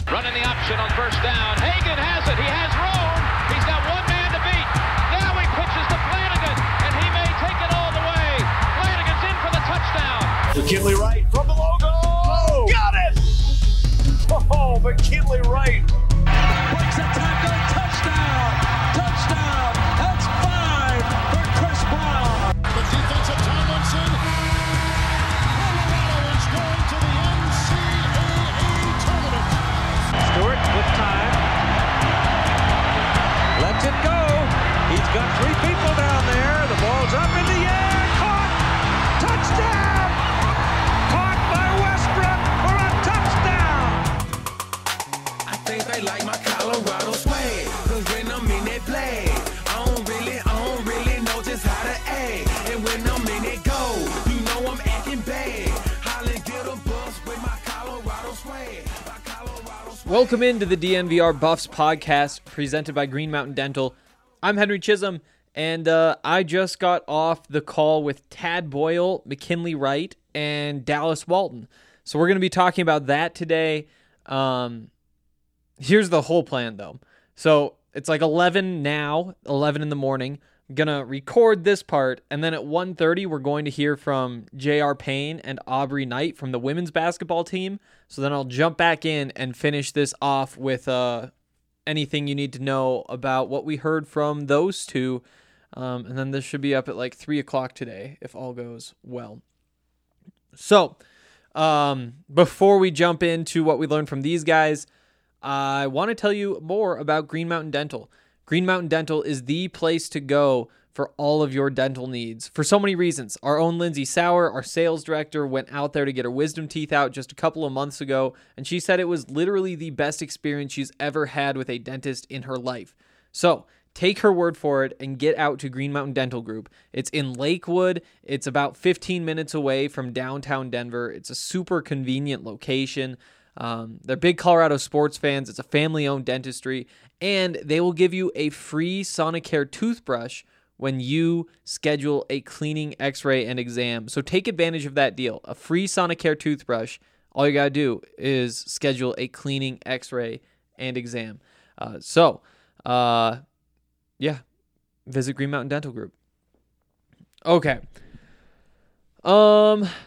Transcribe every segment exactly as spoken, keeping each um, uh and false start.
Running the option on first down. Hagan has it. He has room. He's got one man to beat. Now he pitches to Flanagan, and he may take it all the way. Flanagan's in for the touchdown. McKinley Wright from the logo. Oh, got it! Oh, McKinley Wright. Breaks a tackle. Touchdown. Touchdown. That's five for Chris Brown. The defensive Tomlinson. Colorado is going to the N C double A tournament. Stewart with time. Lets it go. He's got three people down there. The ball's up in the air. Caught. Touchdown. Caught by Westbrook for a touchdown. I think they like my Colorado swag. Cause when I'm in that play, I don't really, I don't really know just how to act. And when I'm in it go, you know I'm acting bad. Holland get a bus with my Colorado swag. My Colorado swag. Welcome into the D N V R Buffs podcast presented by Green Mountain Dental. I'm Henry Chisholm, and uh, I just got off the call with Tad Boyle, McKinley Wright, and Dallas Walton. So we're going to be talking about that today. Um, here's the whole plan, though. So it's like eleven now, eleven in the morning. I'm going to record this part, and then at one thirty, we're going to hear from J R Payne and Aubrey Knight from the women's basketball team. So then I'll jump back in and finish this off with uh, anything you need to know about what we heard from those two. Um, and then this should be up at like three o'clock today, if all goes well. So um, before we jump into what we learned from these guys, I want to tell you more about Green Mountain Dental. Green Mountain Dental is the place to go for all of your dental needs for so many reasons. Our own Lindsay Sauer, our sales director, went out there to get her wisdom teeth out just a couple of months ago, and she said it was literally the best experience she's ever had with a dentist in her life. So take her word for it and get out to Green Mountain Dental Group. It's in Lakewood. It's about fifteen minutes away from downtown Denver. It's a super convenient location. Um, they're big Colorado sports fans. It's a family-owned dentistry, and they will give you a free Sonicare toothbrush when you schedule a cleaning, x-ray, and exam. So take advantage of that deal. A free Sonicare toothbrush. All you got to do is schedule a cleaning, x-ray, and exam. Uh, so, uh, yeah, visit Green Mountain Dental Group. Okay. Um,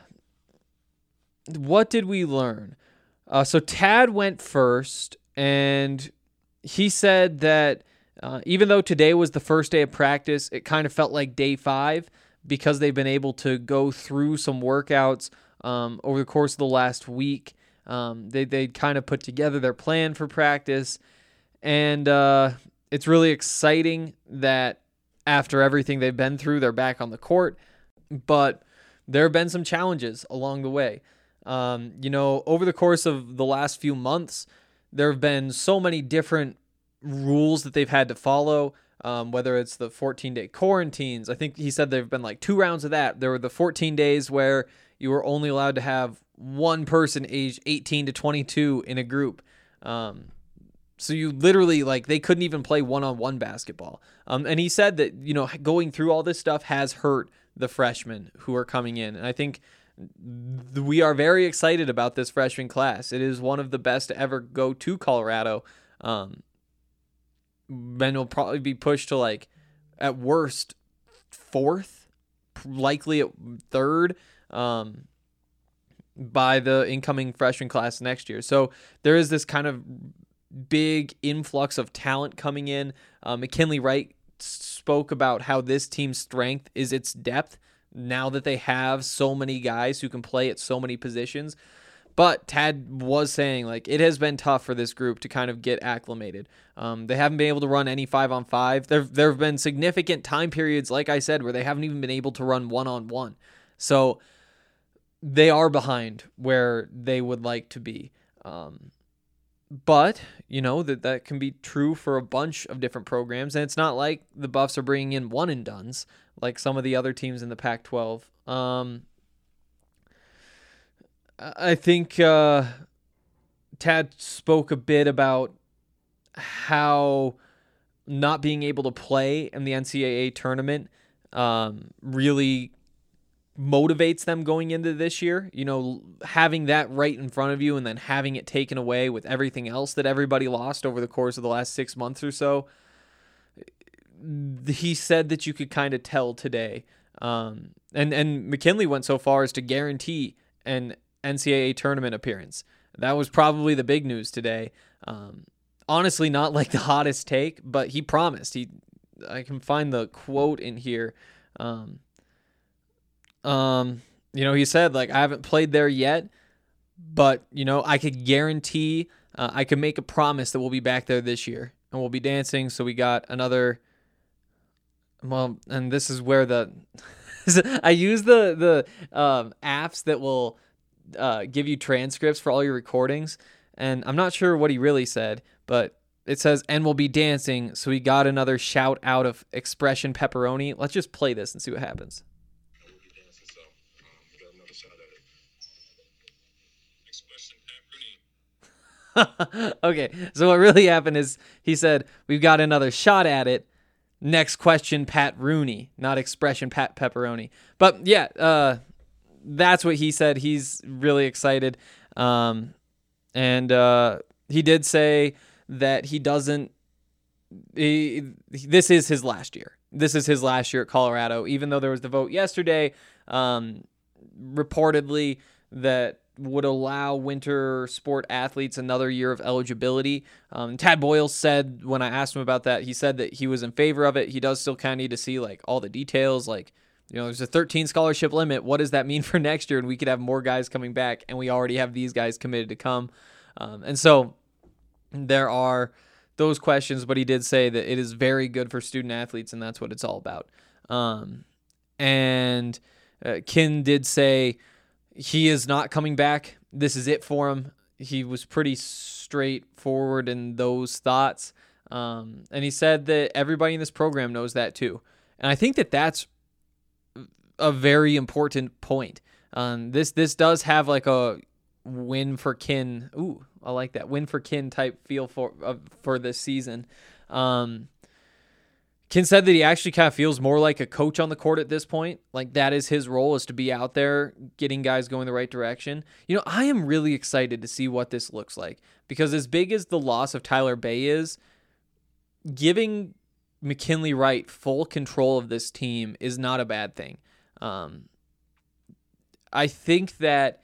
what did we learn? Uh, so Tad went first, and he said that uh, even though today was the first day of practice, it kind of felt like day five because they've been able to go through some workouts um, over the course of the last week. Um, they they kind of put together their plan for practice, and uh, it's really exciting that after everything they've been through, they're back on the court, but there have been some challenges along the way. Um, you know, over the course of the last few months, there have been so many different rules that they've had to follow, um, whether it's the fourteen-day quarantines. I think he said there have been like two rounds of that. There were the fourteen days where you were only allowed to have one person aged eighteen to twenty-two in a group. Um, so you literally, like, they couldn't even play one-on-one basketball. Um, and he said that, you know, going through all this stuff has hurt the freshmen who are coming in. And I think we are very excited about this freshman class. It is one of the best to ever go to Colorado. Um, and will probably be pushed to, like, at worst, fourth, likely at third, um, by the incoming freshman class next year. So there is this kind of big influx of talent coming in. Uh, McKinley Wright spoke about how this team's strength is its depth, now that they have so many guys who can play at so many positions. But Tad was saying, like, it has been tough for this group to kind of get acclimated. Um, they haven't been able to run any five-on-five. There there have been significant time periods, like I said, where they haven't even been able to run one-on-one. So they are behind where they would like to be. Um, but, you know, that, that can be true for a bunch of different programs. And it's not like the Buffs are bringing in one-and-dones like some of the other teams in the Pac twelve. Um, I think uh, Tad spoke a bit about how not being able to play in the N C double A tournament um, really motivates them going into this year. You know, having that right in front of you and then having it taken away with everything else that everybody lost over the course of the last six months or so. He said that you could kind of tell today. Um, and, and McKinley went so far as to guarantee an N C double A tournament appearance. That was probably the big news today. Um, honestly, not like the hottest take, but he promised. He, I can find the quote in here. Um, um, you know, he said, like, I haven't played there yet, but, you know, I could guarantee, uh, I could make a promise that we'll be back there this year and we'll be dancing. So we got another, well, and this is where the, I use the, the, um, apps that will, uh, give you transcripts for all your recordings. And I'm not sure what he really said, but it says, and we'll be dancing. So we got another shout out of Expression Pepperoni. Let's just play this and see what happens. We'll be dancing, so um, we got another shot at it. Expression Pepperoni. Okay, so what really happened is he said, we've got another shot at it. Next question, Pat Rooney, not Expression Pat Pepperoni. But yeah, uh, that's what he said. He's really excited. Um, and uh, he did say that he doesn't, he, this is his last year. This is his last year at Colorado, even though there was the vote yesterday, um, reportedly, that would allow winter sport athletes another year of eligibility. Um, Tad Boyle said, when I asked him about that, he said that he was in favor of it. He does still kind of need to see like all the details. Like, you know, there's a thirteen scholarship limit. What does that mean for next year? And we could have more guys coming back, and we already have these guys committed to come. Um, and so there are those questions, but he did say that it is very good for student athletes, and that's what it's all about. Um, and uh, Kin did say he is not coming back. This is it for him. He was pretty straightforward in those thoughts. Um, and he said that everybody in this program knows that too. And I think that that's a very important point. Um, this this does have like a win for Kin. Ooh, I like that win for Kin type feel for uh, for this season. Um, Kin said that he actually kind of feels more like a coach on the court at this point. Like that is his role, is to be out there getting guys going the right direction. You know, I am really excited to see what this looks like, because as big as the loss of Tyler Bay is, giving McKinley Wright full control of this team is not a bad thing. Um, I think that,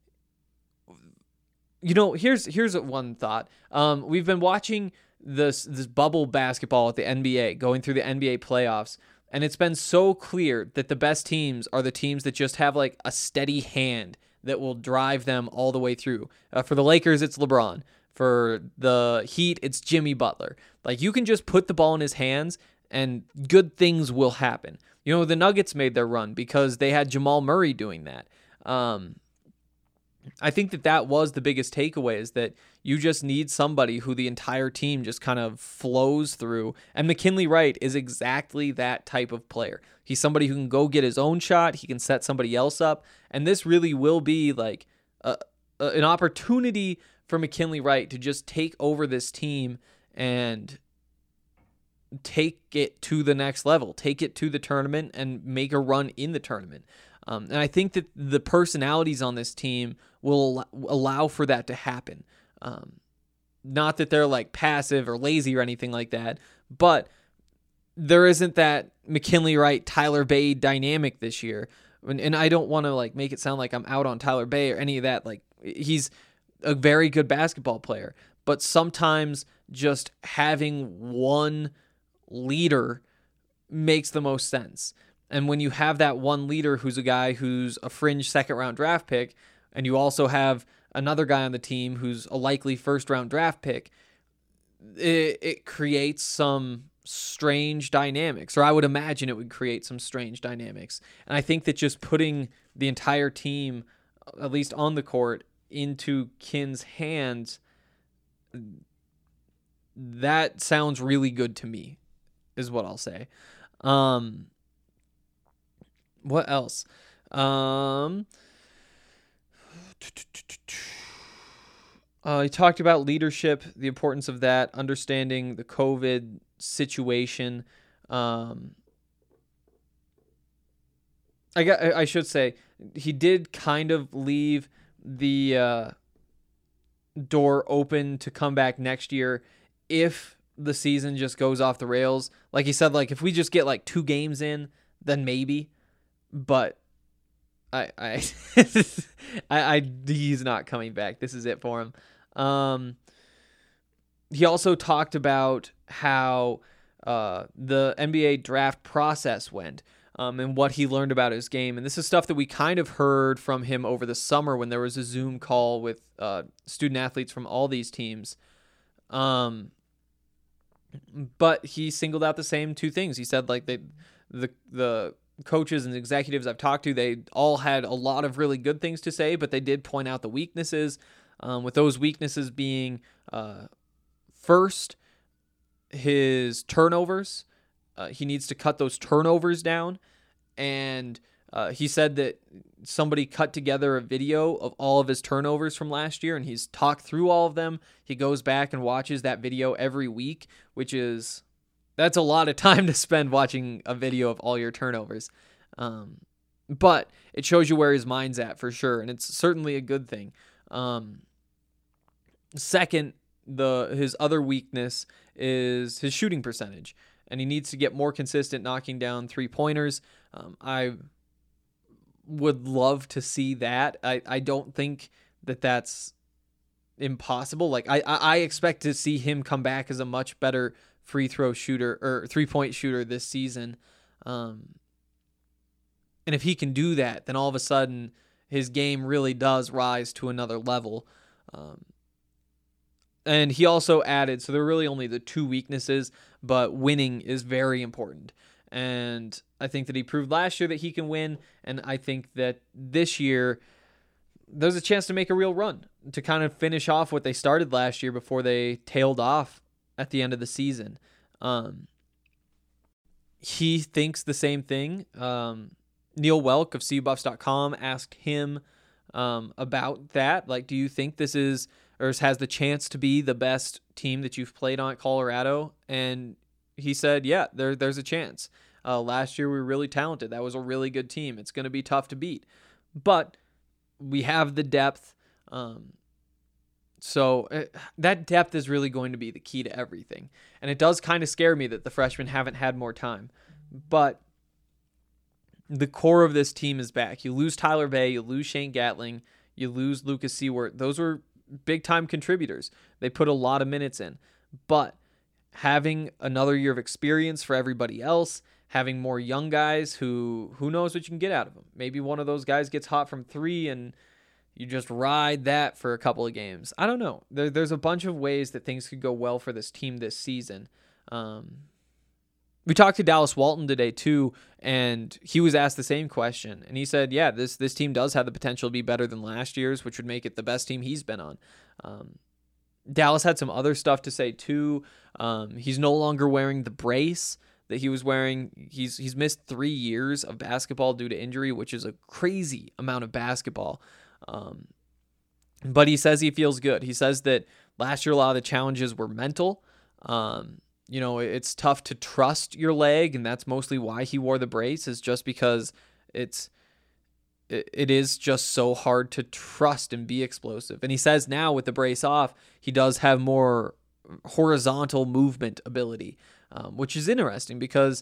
you know, here's here's one thought. Um, we've been watching this this bubble basketball at the N B A, going through the N B A playoffs, and it's been so clear that the best teams are the teams that just have like a steady hand that will drive them all the way through. Uh, for the Lakers, it's LeBron. For the Heat, it's Jimmy Butler. Like, you can just put the ball in his hands and good things will happen. You know, the Nuggets made their run because they had Jamal Murray doing that. Um, I think that that was the biggest takeaway, is that you just need somebody who the entire team just kind of flows through. And McKinley Wright is exactly that type of player. He's somebody who can go get his own shot. He can set somebody else up. And this really will be like a, a, an opportunity for McKinley Wright to just take over this team and take it to the next level, take it to the tournament and make a run in the tournament. Um, and I think that the personalities on this team will allow for that to happen. Um, not that they're like passive or lazy or anything like that, but there isn't that McKinley Wright, Tyler Bay dynamic this year. And, and I don't want to like make it sound like I'm out on Tyler Bay or any of that. Like, he's a very good basketball player, but sometimes just having one leader makes the most sense. And when you have that one leader who's a guy who's a fringe second round draft pick, and you also have another guy on the team who's a likely first round draft pick, it, it creates some strange dynamics, or I would imagine it would create some strange dynamics. And I think that just putting the entire team, at least on the court, into Kin's hands, that sounds really good to me, is what I'll say. Um, what else? Um, uh, he talked about leadership, the importance of that, understanding the COVID situation. Um, I got. I should say he did kind of leave the uh, door open to come back next year if the season just goes off the rails. Like he said, like if we just get like two games in, then maybe. But I, I, I, I, he's not coming back. This is it for him. Um, he also talked about how uh, the N B A draft process went. Um, and what he learned about his game. And this is stuff that we kind of heard from him over the summer when there was a Zoom call with uh, student athletes from all these teams. Um, but he singled out the same two things. He said like they, the the coaches and executives I've talked to, they all had a lot of really good things to say, but they did point out the weaknesses, um, with those weaknesses being uh, first, his turnovers. Uh, he needs to cut those turnovers down. And uh, he said that somebody cut together a video of all of his turnovers from last year, and he's talked through all of them. He goes back and watches that video every week, which is, that's a lot of time to spend watching a video of all your turnovers. Um, but it shows you where his mind's at for sure, and it's certainly a good thing. Um, second, the his other weakness is his shooting percentage. And he needs to get more consistent knocking down three-pointers. Um, I would love to see that. I, I don't think that that's impossible. Like I, I expect to see him come back as a much better free throw shooter or three-point shooter this season. Um, and if he can do that, then all of a sudden his game really does rise to another level. Um, And he also added, so there are really only the two weaknesses, but winning is very important. And I think that he proved last year that he can win, and I think that this year there's a chance to make a real run, to kind of finish off what they started last year before they tailed off at the end of the season. Um, he thinks the same thing. Um, Neil Welk of C Buffs dot com asked him um, about that. Like, do you think this is... or has the chance to be the best team that you've played on at Colorado? And he said, yeah, there, there's a chance. Uh, last year, we were really talented. That was a really good team. It's going to be tough to beat. But we have the depth. Um, so uh, that depth is really going to be the key to everything. And it does kind of scare me that the freshmen haven't had more time. But the core of this team is back. You lose Tyler Bay, you lose Shane Gatling, you lose Lucas Seward. Those were big-time contributors. They put a lot of minutes in. But having another year of experience for everybody else, having more young guys who who knows what you can get out of them. Maybe one of those guys gets hot from three and you just ride that for a couple of games. I don't know. There, there's a bunch of ways that things could go well for this team this season. Um, we talked to Dallas Walton today too, and he was asked the same question. And he said, yeah, this this team does have the potential to be better than last year's, which would make it the best team he's been on. Um, Dallas had some other stuff to say too. Um, he's no longer wearing the brace that he was wearing. He's he's missed three years of basketball due to injury, which is a crazy amount of basketball. Um, but he says he feels good. He says that last year a lot of the challenges were mental. Um, you know, it's tough to trust your leg, and that's mostly why he wore the brace, is just because it's it, it is just so hard to trust and be explosive. And he says now with the brace off, he does have more horizontal movement ability, um, which is interesting because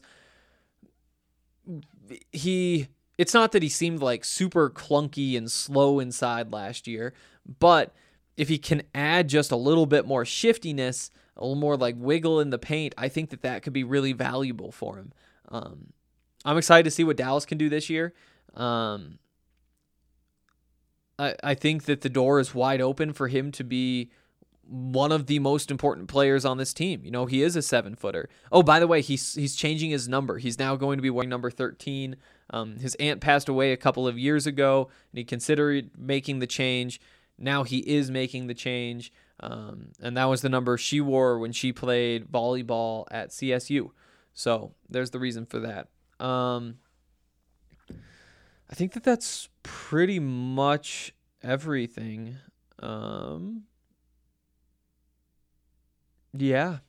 he, it's not that he seemed like super clunky and slow inside last year, but if he can add just a little bit more shiftiness, a little more like wiggle in the paint, I think that that could be really valuable for him. Um, I'm excited to see what Dallas can do this year. Um, I, I think that the door is wide open for him to be one of the most important players on this team. You know, he is a seven footer. Oh, by the way, he's he's changing his number. He's now going to be wearing number thirteen. Um, his aunt passed away a couple of years ago, and he considered making the change. Now he is making the change, um, and that was the number she wore when she played volleyball at C S U. So there's the reason for that. Um, I think that that's pretty much everything. Um, yeah.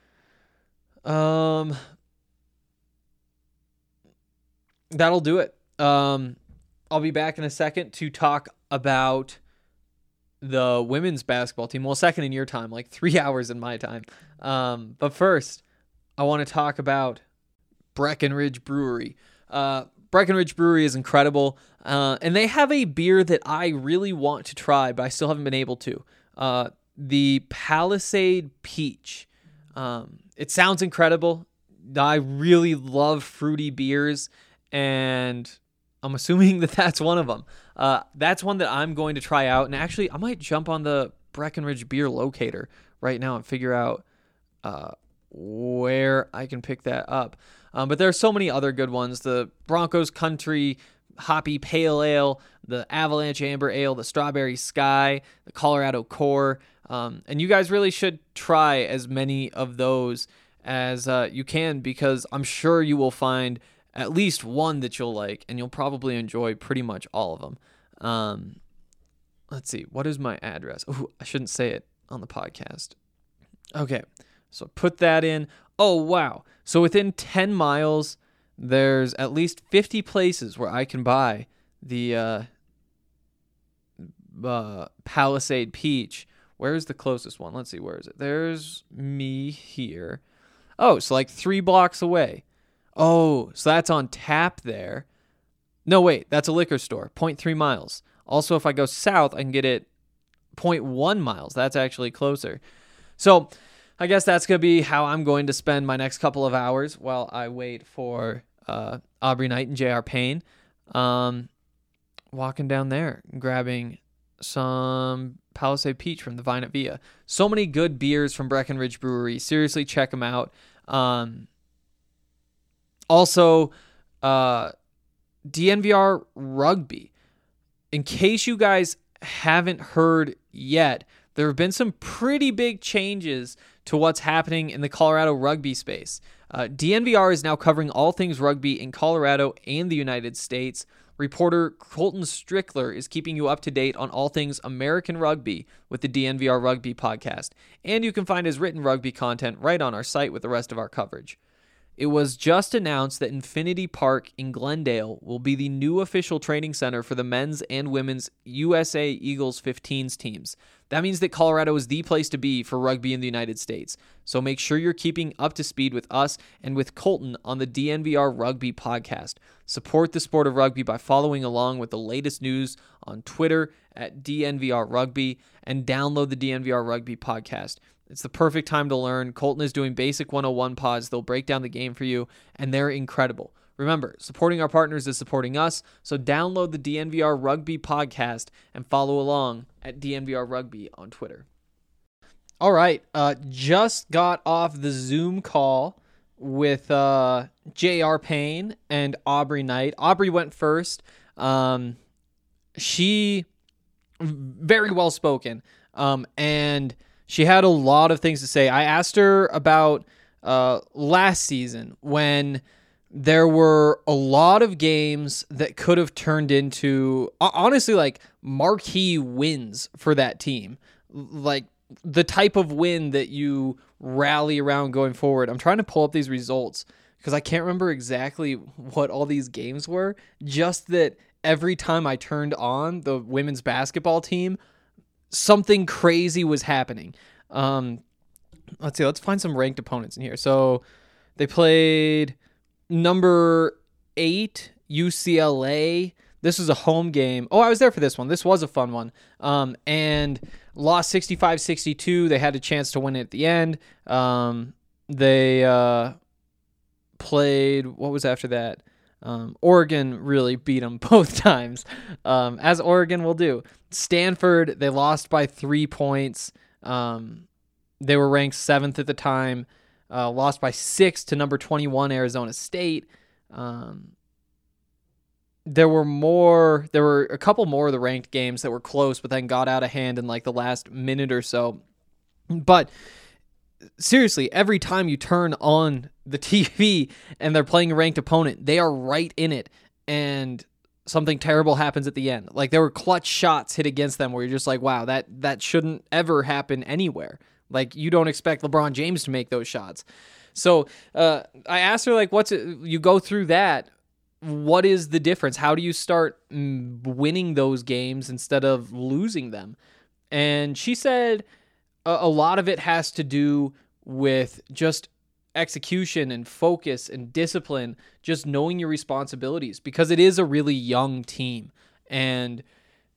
Um, that'll do it um, I'll be back in a second to talk about the women's basketball team. Well, second in your time, like three hours in my time. Um, but first, I want to talk about Breckenridge Brewery. Uh, Breckenridge Brewery is incredible, uh, and they have a beer that I really want to try, but I still haven't been able to. Uh, the Palisade Peach. Um, it sounds incredible. I really love fruity beers, and I'm assuming that that's one of them. Uh, that's one that I'm going to try out, and actually, I might jump on the Breckenridge Beer Locator right now and figure out uh, where I can pick that up. Um, but there are so many other good ones. The Broncos Country Hoppy Pale Ale, the Avalanche Amber Ale, the Strawberry Sky, the Colorado Core. Um, and you guys really should try as many of those as uh, you can, because I'm sure you will find at least one that you'll like, and you'll probably enjoy pretty much all of them. Um, let's see. What is my address? Oh, I shouldn't say it on the podcast. Okay. So put that in. Oh, wow. So within ten miles, there's at least fifty places where I can buy the uh, uh, Palisade Peach. Where's the closest one? Let's see. Where is it? There's me here. Oh, so like three blocks away. Oh, so that's on tap there. No, wait. That's a liquor store. zero point three miles. Also, if I go south, I can get it zero point one miles. That's actually closer. So I guess that's going to be how I'm going to spend my next couple of hours while I wait for uh, Aubrey Knight and J R Payne. Um, walking down there, grabbing some Palisade Peach from the Vine at Via. So many good beers from Breckenridge Brewery. Seriously, check them out. Um, also, uh, D N V R Rugby. In case you guys haven't heard yet, there have been some pretty big changes to what's happening in the Colorado rugby space. Uh, D N V R is now covering all things rugby in Colorado and the United States. Reporter Colton Strickler is keeping you up to date on all things American rugby with the D N V R Rugby podcast. And you can find his written rugby content right on our site with the rest of our coverage. It was just announced that Infinity Park in Glendale will be the new official training center for the men's and women's U S A Eagles fifteens teams. That means that Colorado is the place to be for rugby in the United States. So make sure you're keeping up to speed with us and with Colton on the D N V R Rugby podcast. Support the sport of rugby by following along with the latest news on Twitter at D N V R Rugby, and download the D N V R Rugby podcast. It's the perfect time to learn. Colton is doing Basic one oh one pods. They'll break down the game for you, and they're incredible. Remember, supporting our partners is supporting us, so download the D N V R Rugby podcast and follow along at D N V R Rugby on Twitter. All right, uh, just got off the Zoom call with uh, J R Payne and Aubrey Knight. Aubrey went first. Um, she, very well spoken, um, and she had a lot of things to say. I asked her about uh, last season when there were a lot of games that could have turned into, honestly, like marquee wins for that team. Like the type of win that you rally around going forward. I'm trying to pull up these results because I can't remember exactly what all these games were. Just that every time I turned on the women's basketball team, something crazy was happening. Um, let's see. Let's find some ranked opponents in here. So they played number eight U C L A. This was a home game. Oh, I was there for this one. This was a fun one. Um, and lost sixty-five sixty-two. They had a chance to win it at the end. Um, they uh, played, what was after that? Um, Oregon really beat them both times, um, as Oregon will do. Stanford, they lost by three points. Um, they were ranked seventh at the time, uh, lost by six to number twenty-one Arizona State. Um, there were more, there were a couple more of the ranked games that were close, but then got out of hand in like the last minute or so. But seriously, every time you turn on the T V and they're playing a ranked opponent, they are right in it, and something terrible happens at the end. Like there were clutch shots hit against them where you're just like, wow, that that shouldn't ever happen anywhere. Like you don't expect LeBron James to make those shots. So uh, I asked her, like, what's it? You go through that. what is the difference? How do you start winning those games instead of losing them? And she said a, a lot of it has to do with just execution and focus and discipline, just knowing your responsibilities, because it is a really young team. And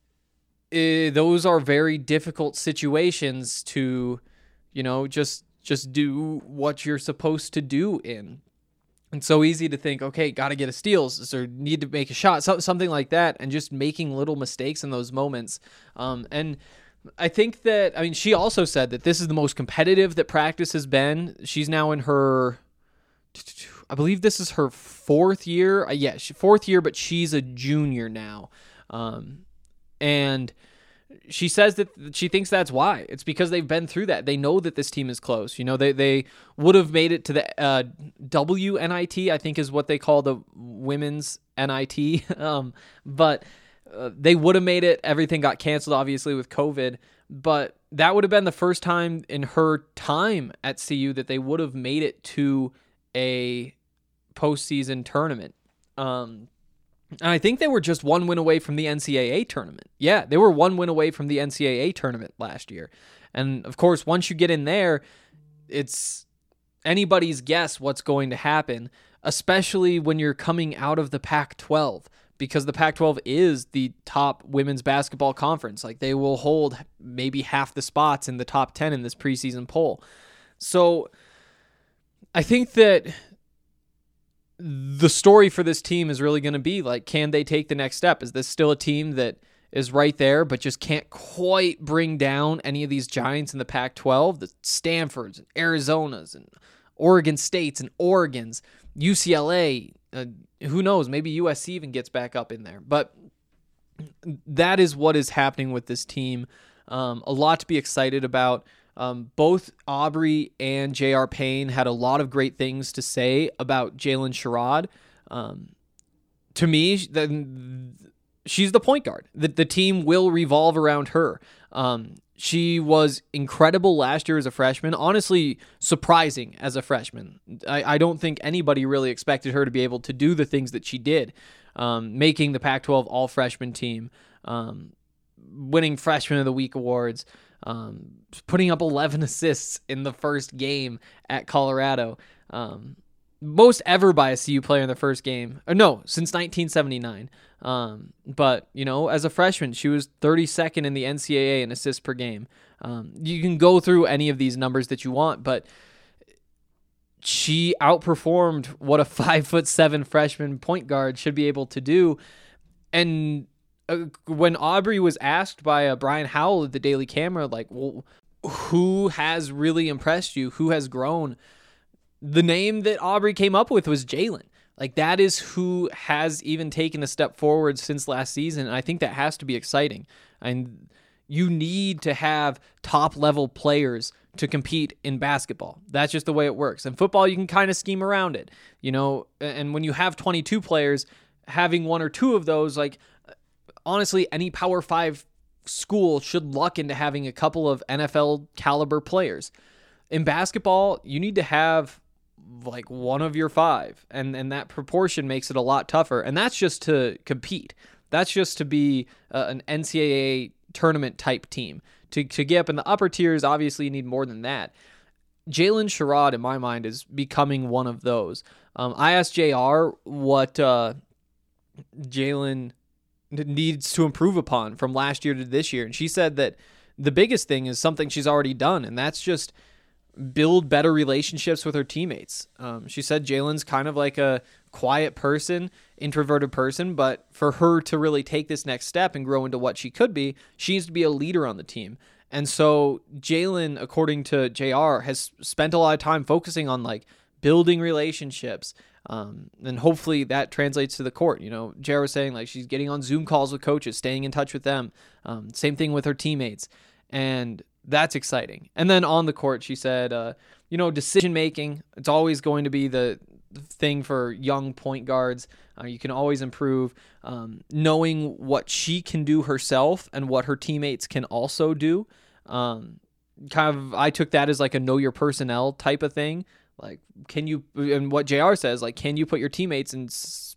it, those are very difficult situations to, you know, just just do what you're supposed to do in. It's so easy to think, okay, got to get a steal or need to make a shot, so, something like that, and just making little mistakes in those moments. Um, and I think that, I mean, she also said that this is the most competitive that practice has been. She's now in her, I believe this is her fourth year. Uh, yeah, she, fourth year, but she's a junior now. Um, and she says that she thinks that's why. It's because they've been through that. They know that this team is close. You know, they they would have made it to the uh, W N I T, I think is what they call the women's N I T. um, but uh, they would have made it. Everything got canceled, obviously, with COVID. But that would have been the first time in her time at C U that they would have made it to a postseason tournament. Um And I think they were just one win away from the N C double A tournament. Yeah, they were one win away from the N C double A tournament last year. And, of course, once you get in there, it's anybody's guess what's going to happen, especially when you're coming out of the Pac twelve, because the Pac twelve is the top women's basketball conference. Like, they will hold maybe half the spots in the top ten in this preseason poll. So I think that the story for this team is really going to be like, can they take the next step? Is this still a team that is right there, but just can't quite bring down any of these giants in the Pac twelve, the Stanfords and Arizonas and Oregon States and Oregons, U C L A, uh, who knows, maybe U S C even gets back up in there. But that is what is happening with this team. Um, a lot to be excited about. Um, both Aubrey and J R. Payne had a lot of great things to say about Jalen Sherrod. Um, to me, the, she's the point guard. The, the team will revolve around her. Um, she was incredible last year as a freshman. Honestly, surprising as a freshman. I, I don't think anybody really expected her to be able to do the things that she did, um, making the Pac twelve all-freshman team, um, winning Freshman of the Week awards, Um, putting up eleven assists in the first game at Colorado. Um, most ever by a C U player in the first game. Or no, since nineteen seventy-nine. Um, but, you know, as a freshman, she was thirty-second in the N C double A in assists per game. Um, you can go through any of these numbers that you want, but she outperformed what a five foot seven freshman point guard should be able to do. And Uh, when Aubrey was asked by uh, Brian Howell at the Daily Camera, like, well, who has really impressed you? Who has grown? The name that Aubrey came up with was Jalen. Like, that is who has even taken a step forward since last season. And I think that has to be exciting. And you need to have top-level players to compete in basketball. That's just the way it works. In football, you can kind of scheme around it, you know. And when you have twenty-two players, having one or two of those, like, honestly, any Power Five school should luck into having a couple of N F L caliber players. In basketball, you need to have like one of your five, and, and that proportion makes it a lot tougher. And that's just to compete. That's just to be uh, an N C double A tournament type team. To, to get up in the upper tiers, obviously you need more than that. Jalen Sherrod, in my mind, is becoming one of those. Um, I asked J R what uh, Jalen needs to improve upon from last year to this year. And she said that the biggest thing is something she's already done, and that's just build better relationships with her teammates. Um, she said Jalen's kind of like a quiet person, introverted person, but for her to really take this next step and grow into what she could be, she needs to be a leader on the team. And so Jalen, according to J R, has spent a lot of time focusing on like building relationships. Um, and hopefully that translates to the court. You know, J R was saying like she's getting on Zoom calls with coaches, staying in touch with them. Um, same thing with her teammates. And that's exciting. And then on the court, she said, uh, you know, decision making, it's always going to be the thing for young point guards. Uh, you can always improve. Um, knowing what she can do herself and what her teammates can also do. Um, kind of, I took that as like a know your personnel type of thing. Like, can you, and what J R says, like, can you put your teammates in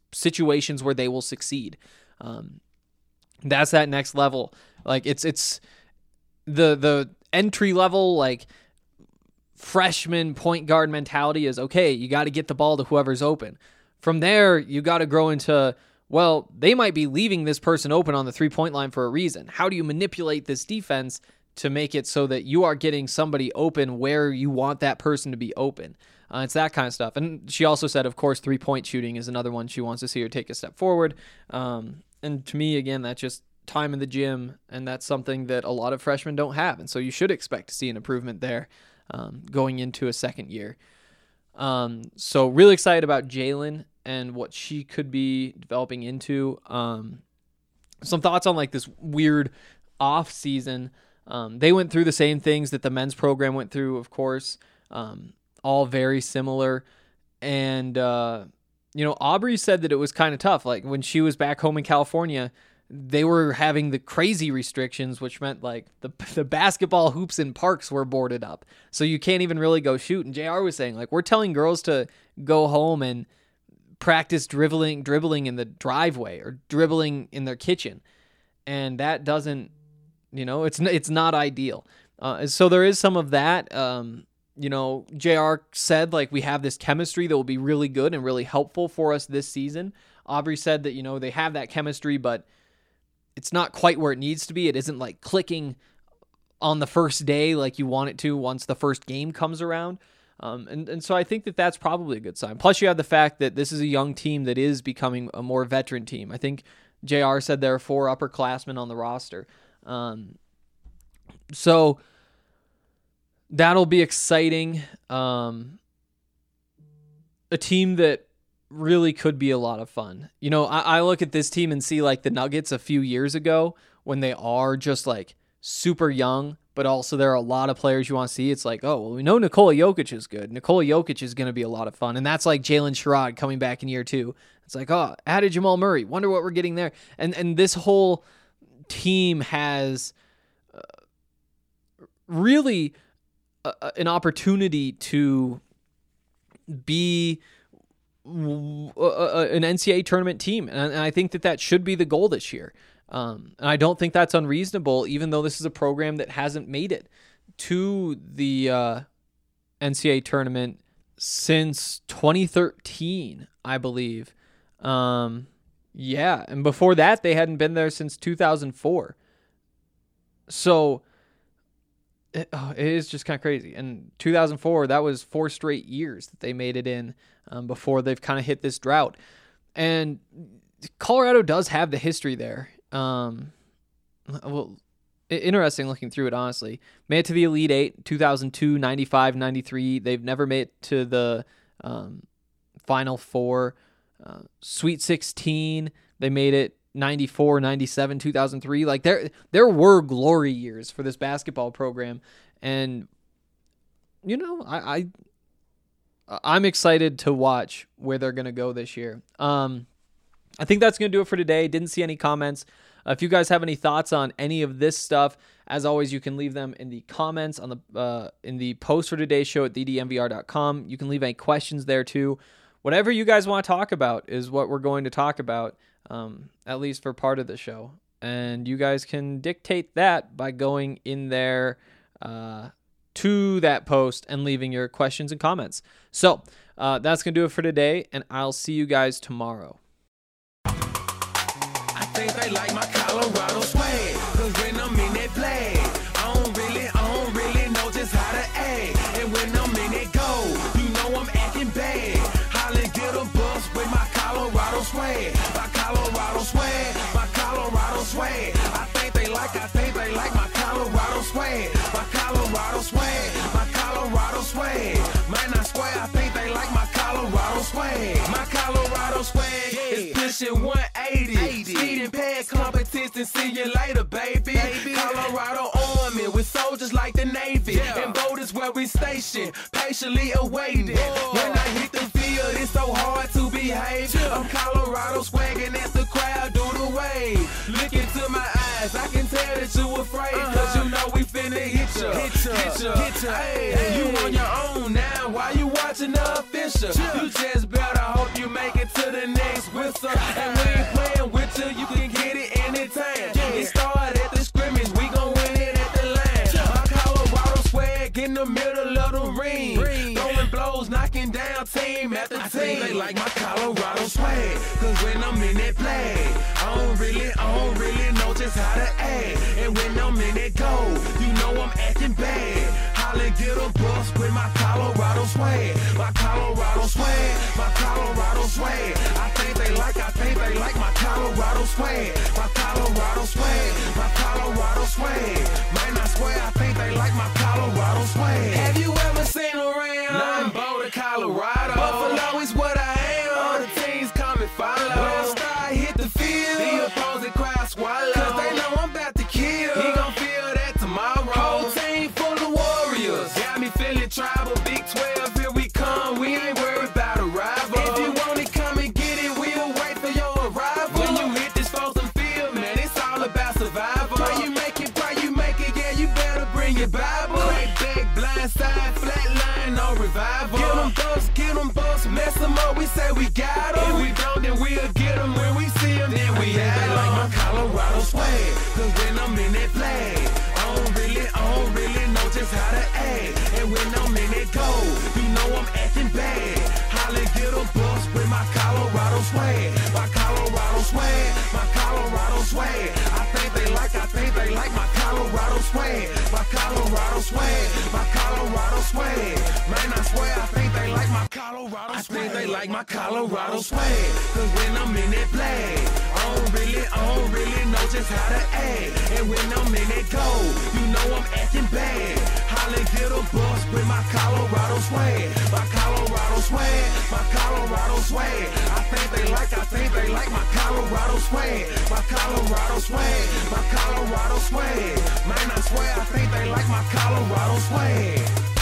situations where they will succeed. Um, that's that next level. Like it's it's the the entry level like freshman point guard mentality is okay. You got to get the ball to whoever's open. From there, you got to grow into, well, they might be leaving this person open on the three-point line for a reason. How do you manipulate this defense to make it so that you are getting somebody open where you want that person to be open? Uh, it's that kind of stuff. And she also said, of course, three-point shooting is another one she wants to see her take a step forward. Um, and to me, again, that's just time in the gym, and that's something that a lot of freshmen don't have. And so you should expect to see an improvement there um, going into a second year. Um, so really excited about Jalen and what she could be developing into. Um, some thoughts on like this weird off season. Um, they went through the same things that the men's program went through, of course, um, all very similar. And, uh, you know, Aubrey said that it was kind of tough. Like when she was back home in California, they were having the crazy restrictions, which meant like the the basketball hoops in parks were boarded up. So you can't even really go shoot. And J R was saying, like, we're telling girls to go home and practice dribbling, dribbling in the driveway or dribbling in their kitchen. And that doesn't, you know, it's, it's not ideal. Uh, so there is some of that. Um, you know, J R said, like, we have this chemistry that will be really good and really helpful for us this season. Aubrey said that, you know, they have that chemistry, but it's not quite where it needs to be. It isn't like clicking on the first day like you want it to once the first game comes around. Um, and, and so I think that that's probably a good sign. Plus you have the fact that this is a young team that is becoming a more veteran team. I think J R said there are four upperclassmen on the roster. Um, so that'll be exciting. Um, a team that really could be a lot of fun. You know, I, I look at this team and see like the Nuggets a few years ago when they are just like super young, but also there are a lot of players you want to see. It's like, oh, well, we know Nikola Jokic is good. Nikola Jokic is going to be a lot of fun. And that's like Jalen Sherrod coming back in year two. It's like, oh, added Jamal Murray. Wonder what we're getting there. And and this whole team has uh, really uh, an opportunity to be an N C double A tournament team. And I think that that should be the goal this year. Um, and I don't think that's unreasonable, even though this is a program that hasn't made it to the uh, N C double A tournament since twenty thirteen, I believe. Um, yeah. And before that, they hadn't been there since two thousand four. So it, oh, it is just kind of crazy. And two thousand four, that was four straight years that they made it in um, before they've kind of hit this drought. And Colorado does have the history there. Um, well, interesting looking through it, honestly. Made it to the Elite Eight, two thousand two, ninety-five, ninety-three. They've never made it to the um, Final Four. Uh, Sweet sixteen, they made it ninety-four, ninety-seven, two thousand three. Like there, there were glory years for this basketball program. And, you know, I, I I'm excited to watch where they're going to go this year. Um, I think that's going to do it for today. Didn't see any comments. Uh, if you guys have any thoughts on any of this stuff, as always, you can leave them in the comments on the uh, in the post for today's show at d d m v r dot com. You can leave any questions there too. Whatever you guys want to talk about is what we're going to talk about, um, at least for part of the show. And you guys can dictate that by going in there uh, to that post and leaving your questions and comments. So uh, that's going to do it for today, and I'll see you guys tomorrow. I think they like my Colorado swag, cause when I'm in that flag, I don't really, I don't really know just how to act. And when I'm in that goal, you know I'm acting bad. Holly get a bus with my Colorado swag, my Colorado swag, my Colorado swag. I think they like, I think they like my Colorado swag, my Colorado swag, my Colorado swag. Man, I swear, I think they like my Colorado swag, my Colorado swag is pushing one eighty. Speeding past competition, see you later, baby. baby. Colorado Army with soldiers like the Navy. Yeah. And voters where we stationed, patiently awaiting. Whoa. When I hit the field, it's so hard to behave. Yeah. I'm Colorado swagging as the crowd do the wave. Look into my eyes, I can tell that you afraid. Uh-huh. Cause you know we finna hit ya, hit ya, hit ya. Hit ya. Hey, hey. You on your own now, why you watching? watching the official. You just better hope you make it to the next whistle. And we ain't playing with you, you can get it anytime. It started at the scrimmage, we gon' win it at the line. My Colorado swag in the middle of the ring. Throwing blows, knocking down team after team. I think they like my Colorado swag, cause when I'm in that play, I don't really, I don't really know just how to act. And when I'm in that goal, you know I'm acting bad. Holla, get a bus with my Colorado swag. My Colorado swag, my Colorado swag. I think they like, I think they like my Colorado swag. My Colorado swag, my Colorado swag. Man, I swear, I think they like my Colorado swag. Have you ever seen around? Nothing Boulder, Colorado. Buffalo is what I am. All the teams come and follow. When I start hit the field, the opposing crowd swallow. Cause they know I'm about to kill. He gon' feel that tomorrow. Whole team full of warriors. Got me feeling tribal. Big twelve, here we come. We ain't worried about a rival. If you want it, come and get it. We'll wait for your arrival. When you hit this frozen field, man, it's all about survival. Pray you make it, pray you make it. Yeah, you better bring your Bible. Crack back, blind side, flat line, no revival. Get them busts, get them busts, mess them up. We say we got them. If we don't, then we'll get them. When we see them, then we have them. Like my Colorado swag, cause when I'm in that play, I don't really, I don't really know just how to act. And when I'm in that goal, you know I'm acting bad. Holla, get a bus with my Colorado swag. My Colorado swag, my Colorado swag. I think they like, I think they like my Colorado swag. My Colorado swag, my Colorado swag. Man, I swear, I think they like my Colorado swag. I think they like my Colorado swag. Cause when I'm in that play, I don't really, I don't really know just how to act. And when I'm in that goal, you know I'm acting bad. Holla, get a bus with my Colorado swag. My Colorado swag, my Colorado swag. I think they like, I think they like my Colorado swag. My Colorado swag, my Colorado swag. Man, I swear, I think they like my Colorado swag.